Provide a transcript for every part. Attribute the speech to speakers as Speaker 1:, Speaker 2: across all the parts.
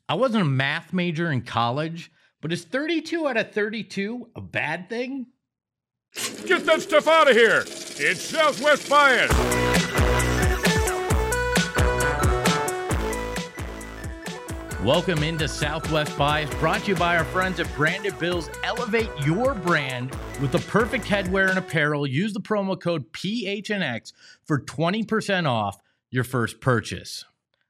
Speaker 1: I wasn't a math major in college, but is 32 out of 32 a bad thing?
Speaker 2: Get that stuff out of here! It's Southwest Bias!
Speaker 1: Welcome into Southwest Bias, brought to you by our friends at Branded Bills. Elevate your brand with the perfect headwear and apparel. Use the promo code PHNX for 20% off your first purchase.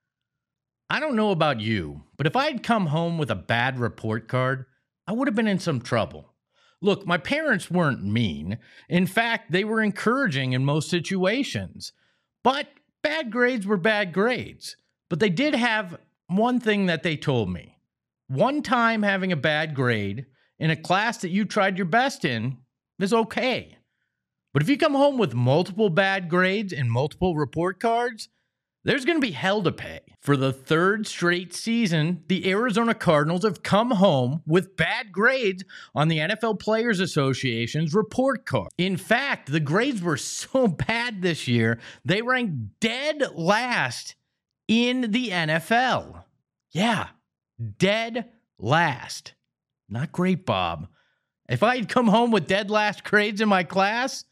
Speaker 1: I don't know about you, but if I had come home with a bad report card, I would have been in some trouble. Look, my parents weren't mean. In fact, they were encouraging in most situations. But bad grades were bad grades. But they did have one thing that they told me. One time having a bad grade in a class that you tried your best in is okay. But if you come home with multiple bad grades and multiple report cards, there's going to be hell to pay. For the third straight season, the Arizona Cardinals have come home with bad grades on the NFL Players Association's report card. In fact, the grades were so bad this year, they ranked dead last in the NFL. Yeah, dead last. Not great, Bob. If I had come home with dead last grades in my class,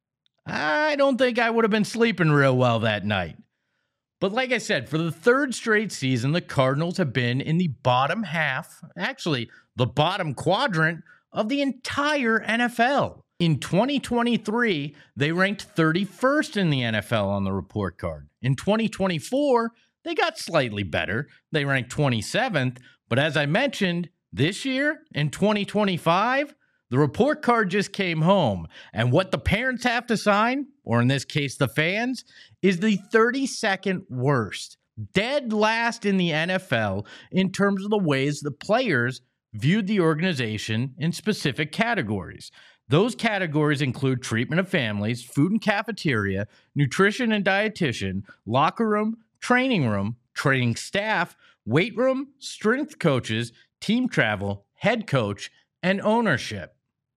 Speaker 1: I don't think I would have been sleeping real well that night. But like I said, for the third straight season, the Cardinals have been in the bottom half, actually the bottom quadrant of the entire NFL. In 2023, they ranked 31st in the NFL on the report card. In 2024, they got slightly better. They ranked 27th. But as I mentioned, this year, in 2025, the report card just came home, and what the parents have to sign, or in this case, the fans, is the 32nd worst. Dead last in the NFL in terms of the ways the players viewed the organization in specific categories. Those categories include treatment of families, food and cafeteria, nutrition and dietitian, locker room, training staff, weight room, strength coaches, team travel, head coach, and ownership.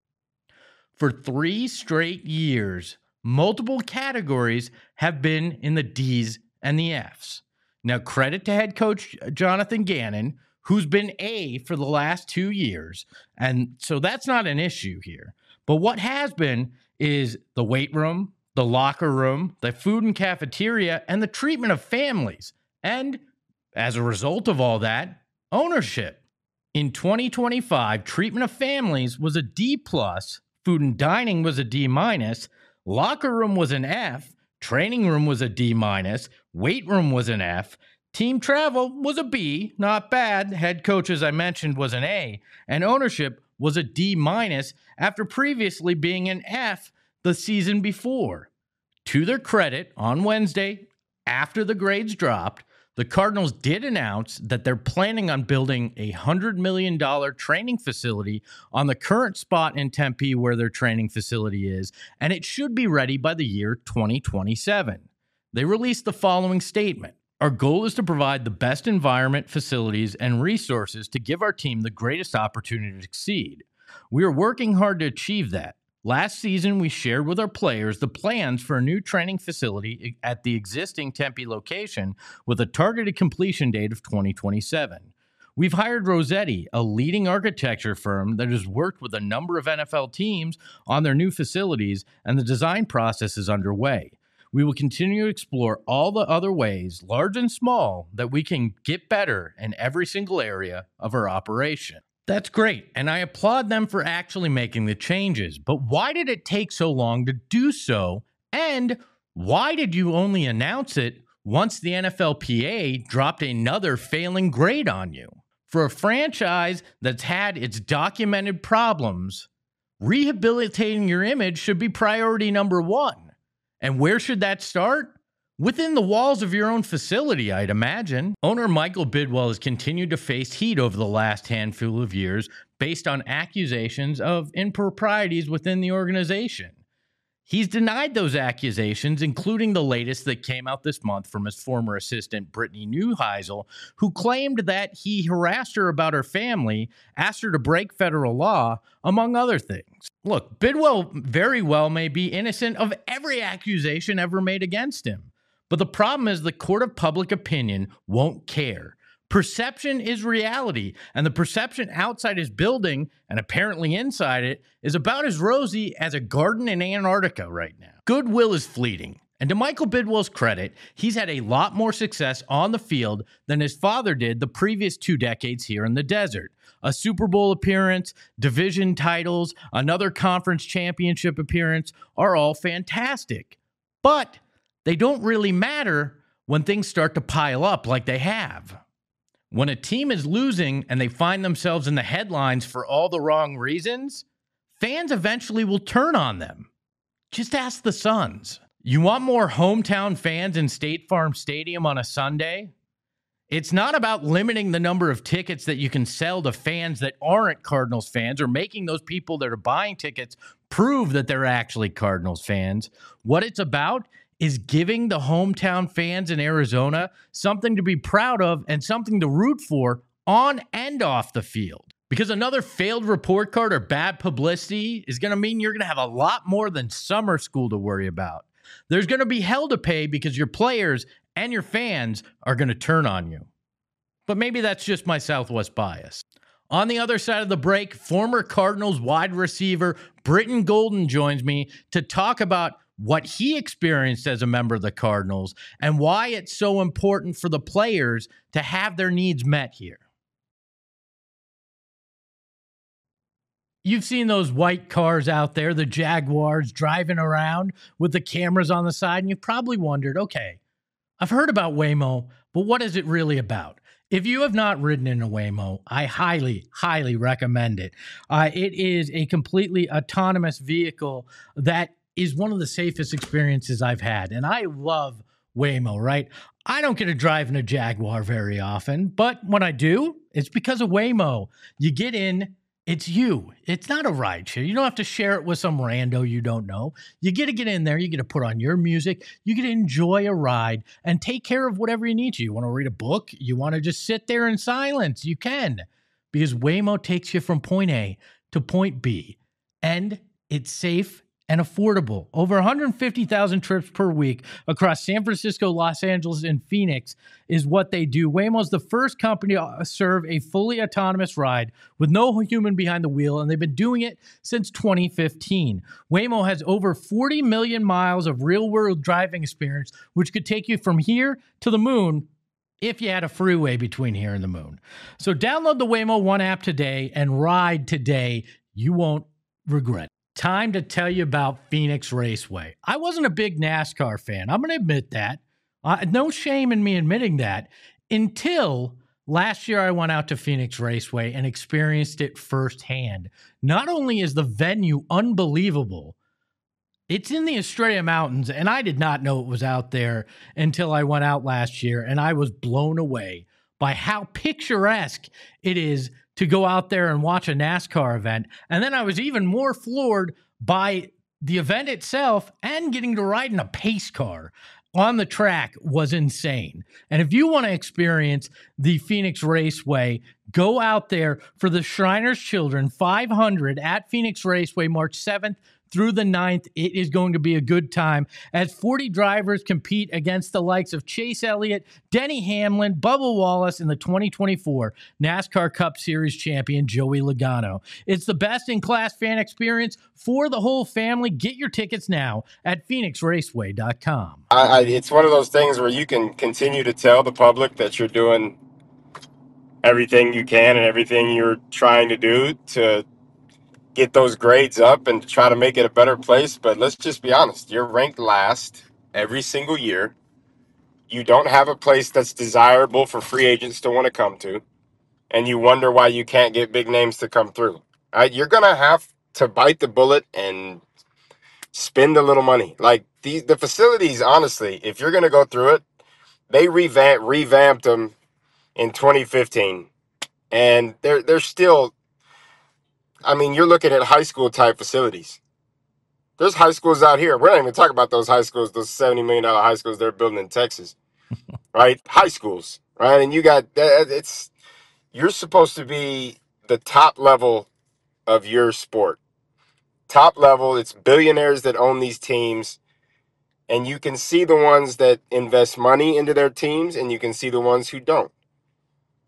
Speaker 1: For 3 straight years, multiple categories have been in the D's and the F's. Now, credit to head coach Jonathan Gannon, who's been A for the last 2 years, and so that's not an issue here. But what has been is the weight room, the locker room, the food and cafeteria, and the treatment of families. And as a result of all that, ownership. In 2025, treatment of families was a D+, food and dining was a D-, locker room was an F, training room was a D-, weight room was an F, team travel was a B, not bad, head coach, as I mentioned, was an A, and ownership was a D- after previously being an F the season before. To their credit, on Wednesday, after the grades dropped, the Cardinals did announce that they're planning on building a $100 million training facility on the current spot in Tempe where their training facility is, and it should be ready by the year 2027. They released the following statement. Our goal is to provide the best environment, facilities, and resources to give our team the greatest opportunity to succeed. We are working hard to achieve that. Last season, we shared with our players the plans for a new training facility at the existing Tempe location with a targeted completion date of 2027. We've hired Rossetti, a leading architecture firm that has worked with a number of NFL teams on their new facilities, and the design process is underway. We will continue to explore all the other ways, large and small, that we can get better in every single area of our operation. That's great, and I applaud them for actually making the changes. But why did it take so long to do so? And why did you only announce it once the NFLPA dropped another failing grade on you? For a franchise that's had its documented problems, rehabilitating your image should be priority number one. And where should that start? Within the walls of your own facility, I'd imagine. Owner Michael Bidwell has continued to face heat over the last handful of years based on accusations of improprieties within the organization. He's denied those accusations, including the latest that came out this month from his former assistant, Brittany Neuheisel, who claimed that he harassed her about her family, asked her to break federal law, among other things. Look, Bidwell very well may be innocent of every accusation ever made against him. But the problem is the court of public opinion won't care. Perception is reality, and the perception outside his building and apparently inside it is about as rosy as a garden in Antarctica right now. Goodwill is fleeting, and to Michael Bidwell's credit, he's had a lot more success on the field than his father did the previous 2 decades here in the desert. A Super Bowl appearance, division titles, another conference championship appearance are all fantastic. But they don't really matter when things start to pile up like they have. When a team is losing and they find themselves in the headlines for all the wrong reasons, fans eventually will turn on them. Just ask the Suns. You want more hometown fans in State Farm Stadium on a Sunday? It's not about limiting the number of tickets that you can sell to fans that aren't Cardinals fans or making those people that are buying tickets prove that they're actually Cardinals fans. What it's about is giving the hometown fans in Arizona something to be proud of and something to root for on and off the field. Because another failed report card or bad publicity is going to mean you're going to have a lot more than summer school to worry about. There's going to be hell to pay because your players and your fans are going to turn on you. But maybe that's just my Southwest bias. On the other side of the break, former Cardinals wide receiver Britton Golden joins me to talk about what he experienced as a member of the Cardinals and why it's so important for the players to have their needs met here. You've seen those white cars out there, the Jaguars driving around with the cameras on the side, and you've probably wondered, okay, I've heard about Waymo, but what is it really about? If you have not ridden in a Waymo, I highly, highly recommend it. It is a completely autonomous vehicle that is one of the safest experiences I've had. And I love Waymo, right? I don't get to drive in a Jaguar very often, but when I do, it's because of Waymo. You get in, it's you. It's not a ride share. You don't have to share it with some rando you don't know. You get to get in there. You get to put on your music. You get to enjoy a ride and take care of whatever you need to. You want to read a book? You want to just sit there in silence? You can, because Waymo takes you from point A to point B, and it's safe and affordable. Over 150,000 trips per week across San Francisco, Los Angeles, and Phoenix is what they do. Waymo is the first company to serve a fully autonomous ride with no human behind the wheel, and they've been doing it since 2015. Waymo has over 40 million miles of real-world driving experience, which could take you from here to the moon if you had a freeway between here and the moon. So download the Waymo One app today and ride today. You won't regret it. Time to tell you about Phoenix Raceway. I wasn't a big NASCAR fan. I'm going to admit that. No shame in me admitting that until last year I went out to Phoenix Raceway and experienced it firsthand. Not only is the venue unbelievable, it's in the Estrella Mountains, and I did not know it was out there until I went out last year, and I was blown away by how picturesque it is to go out there and watch a NASCAR event. And then I was even more floored by the event itself, and getting to ride in a pace car on the track was insane. And if you want to experience the Phoenix Raceway, go out there for the Shriners Children 500 at Phoenix Raceway, March 7th through the 9th. It is going to be a good time as 40 drivers compete against the likes of Chase Elliott, Denny Hamlin, Bubba Wallace, and the 2024 NASCAR Cup Series champion Joey Logano. It's the best-in-class fan experience for the whole family. Get your tickets now at PhoenixRaceway.com.
Speaker 3: It's one of those things where you can continue to tell the public that you're doing everything you can and everything you're trying to do to get those grades up and to try to make it a better place. But let's just be honest, you're ranked last every single year. You don't have a place that's desirable for free agents to want to come to, and you wonder why you can't get big names to come through. You're going to have to bite the bullet and spend a little money. Like the facilities, honestly, if you're going to go through it, they revamped them in 2015, and they're still, I mean, you're looking at high school type facilities. There's high schools out here. We're not even talking about those high schools, those $70 million high schools they're building in Texas, right? High schools, right? And you got, you're supposed to be the top level of your sport. Top level, it's billionaires that own these teams. And you can see the ones that invest money into their teams, and you can see the ones who don't.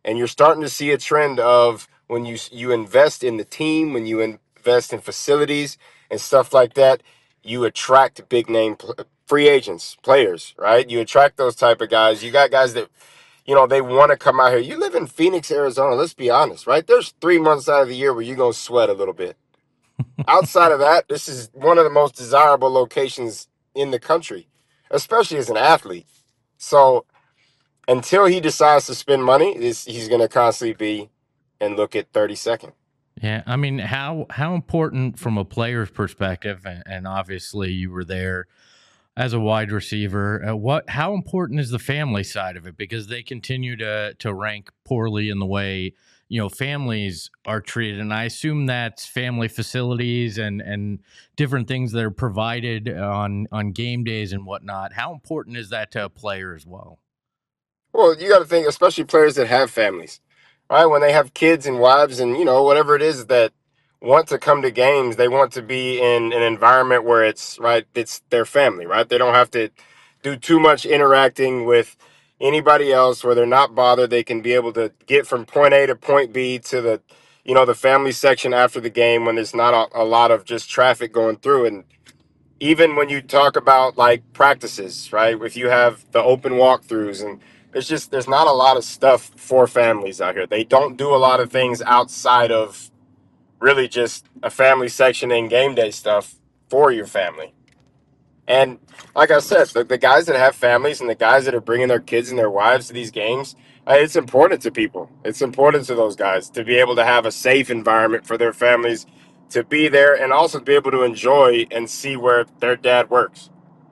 Speaker 3: And you're starting to see a trend of when you invest in the team, when you invest in facilities and stuff like that, you attract big name free agents, players, right? You attract those type of guys. You got guys that, they want to come out here. You live in Phoenix, Arizona. Let's be honest, right? There's 3 months out of the year where you're going to sweat a little bit. Outside of that, this is one of the most desirable locations in the country, especially as an athlete. So until he decides to spend money, he's going to constantly be and look at 32nd.
Speaker 1: Yeah, I mean, how important from a player's perspective, and obviously you were there as a wide receiver. How important is the family side of it? Because they continue to rank poorly in the way families are treated, and I assume that's family facilities and different things that are provided on game days and whatnot. How important is that to a player as well?
Speaker 3: Well, you got to think, especially players that have families, right? When they have kids and wives and, whatever it is that want to come to games, they want to be in an environment where it's their family, right? They don't have to do too much interacting with anybody else where they're not bothered. They can be able to get from point A to point B to the family section after the game when there's not a lot of just traffic going through. And even when you talk about like practices, right? If you have the open walkthroughs and there's not a lot of stuff for families out here. They don't do a lot of things outside of really just a family section and game day stuff for your family. And like I said, the guys that have families and the guys that are bringing their kids and their wives to these games, it's important to people. It's important to those guys to be able to have a safe environment for their families to be there and also to be able to enjoy and see where their dad works.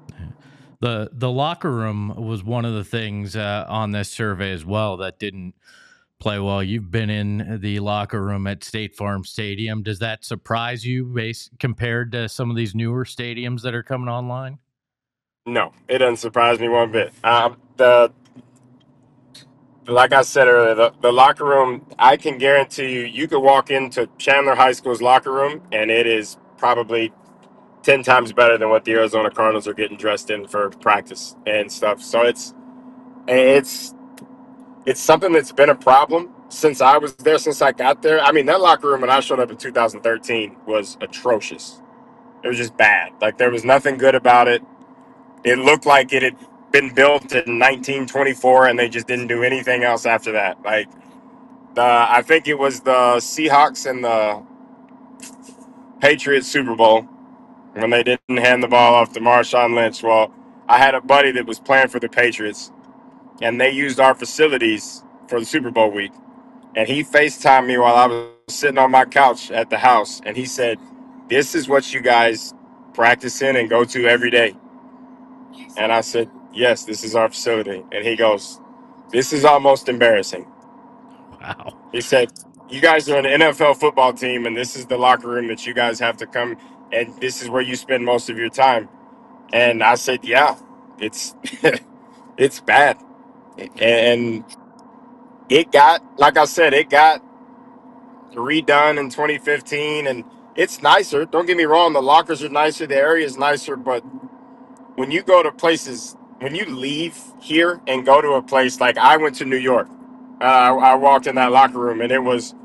Speaker 1: The locker room was one of the things on this survey as well that didn't play well. You've been in the locker room at State Farm Stadium. Does that surprise you compared to some of these newer stadiums that are coming online?
Speaker 3: No, it doesn't surprise me one bit. Like I said earlier, the locker room, I can guarantee you could walk into Chandler High School's locker room and it is probably 10 times better than what the Arizona Cardinals are getting dressed in for practice and stuff. So it's something that's been a problem since I was there, since I got there. I mean, that locker room when I showed up in 2013 was atrocious. It was just bad. Like, there was nothing good about it. It looked like it had been built in 1924 and they just didn't do anything else after that. Like, I think it was the Seahawks and the Patriots Super Bowl when they didn't hand the ball off to Marshawn Lynch. Well, I had a buddy that was playing for the Patriots, and they used our facilities for the Super Bowl week. And he FaceTimed me while I was sitting on my couch at the house, and he said, "This is what you guys practice in and go to every day." And I said, "Yes, this is our facility." And he goes, "This is almost embarrassing."
Speaker 1: Wow.
Speaker 3: He said, "You guys are an NFL football team, and this is the locker room that you guys have to come, and this is where you spend most of your time." And I said, "Yeah, it's it's bad." And it got, like I said, it got redone in 2015, and it's nicer. Don't get me wrong, the lockers are nicer, the area is nicer, but when you go to places, when you leave here and go to a place like I went to New York, I walked in that locker room, and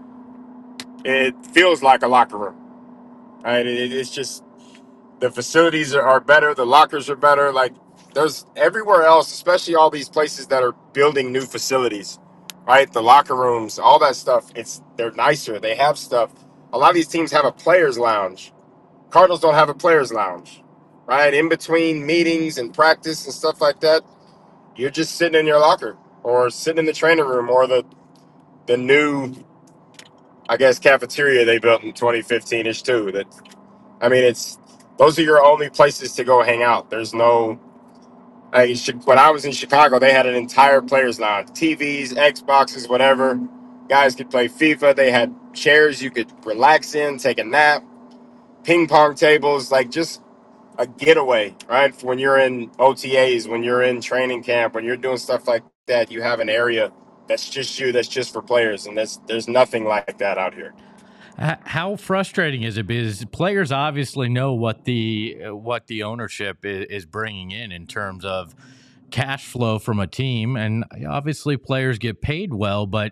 Speaker 3: it feels like a locker room. Right? It's just the facilities are better, the lockers are better. Like, there's everywhere else, especially all these places that are building new facilities, right? The locker rooms, all that stuff. They're nicer. They have stuff. A lot of these teams have a players' lounge. Cardinals don't have a players' lounge, right? In between meetings and practice and stuff like that, you're just sitting in your locker or sitting in the training room or the new, I guess, cafeteria they built in 2015-ish too. Those are your only places to go hang out. There's no, when I was in Chicago, they had an entire players lounge, TVs, Xboxes, whatever. Guys could play FIFA. They had chairs you could relax in, take a nap, ping pong tables, like just a getaway, right? When you're in OTAs, when you're in training camp, when you're doing stuff like that, you have an area that's just you, that's just for players, and there's nothing like that out here.
Speaker 1: How frustrating is it? Because players obviously know what the ownership is bringing in terms of cash flow from a team, and obviously players get paid well, but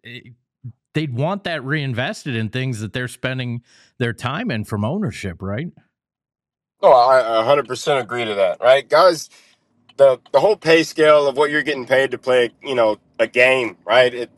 Speaker 1: they'd want that reinvested in things that they're spending their time in from ownership, right?
Speaker 3: No, I 100% agree to that, right? Guys, the whole pay scale of what you're getting paid to play, a game, right?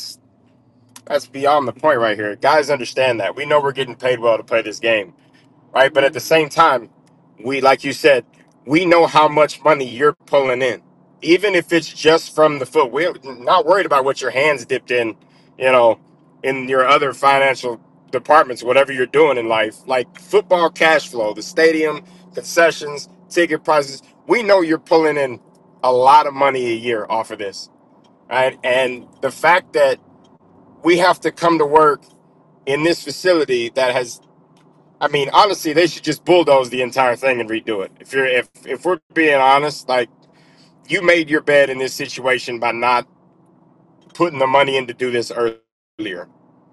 Speaker 3: That's beyond the point right here. Guys understand that. We know we're getting paid well to play this game, right? But at the same time, like you said, we know how much money you're pulling in, even if it's just from the foot. We're not worried about what your hands dipped you know, in your other financial departments, whatever you're doing in life, like football cash flow, the stadium, concessions, ticket prices. We know you're pulling in a lot of money a year off of this, right? And the fact that we have to come to work in this facility that has, I mean, honestly, they should just bulldoze the entire thing and redo it. If we're being honest, like, you made your bed in this situation by not putting the money in to do this earlier.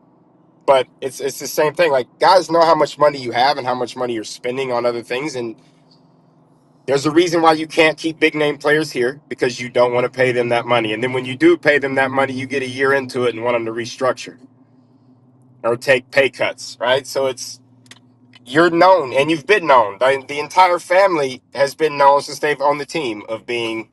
Speaker 3: But it's the same thing. Like, guys know how much money you have and how much money you're spending on other things, and there's a reason why you can't keep big name players here, because you don't want to pay them that money. And then when you do pay them that money, you get a year into it and want them to restructure or take pay cuts, right? So you're known and you've been known. The entire family has been known since they've owned the team of being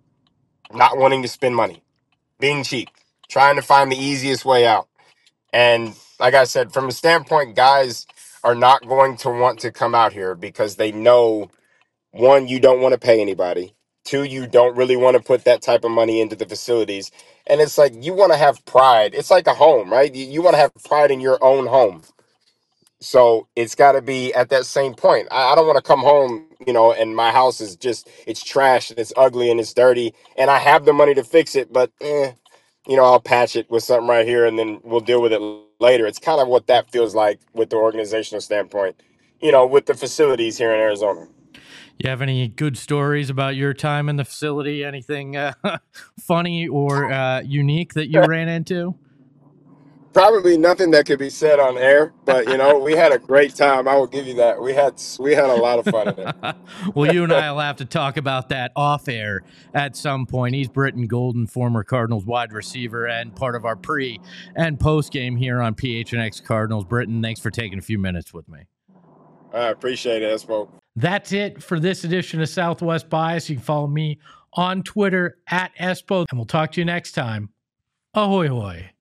Speaker 3: not wanting to spend money, being cheap, trying to find the easiest way out. And like I said, from a standpoint, guys are not going to want to come out here because they know, one, you don't want to pay anybody. Two, you don't really want to put that type of money into the facilities. And it's like, you want to have pride. It's like a home, right? You want to have pride in your own home. So it's got to be at that same point. I don't want to come home, and my house is it's trash and it's ugly and it's dirty, and I have the money to fix it, but I'll patch it with something right here and then we'll deal with it later. It's kind of what that feels like with the organizational standpoint, with the facilities here in Arizona.
Speaker 1: You have any good stories about your time in the facility? Anything funny or unique that you ran into?
Speaker 3: Probably nothing that could be said on air, but we had a great time. I will give you that. We had a lot of fun in it.
Speaker 1: Well, you and I will have to talk about that off air at some point. He's Britton Golden, former Cardinals wide receiver and part of our pre and post game here on PHNX Cardinals. Britton, thanks for taking a few minutes with me.
Speaker 3: I appreciate it, Espo.
Speaker 1: That's it for this edition of Southwest Bias. You can follow me on Twitter at Espo, and we'll talk to you next time. Ahoy, hoy.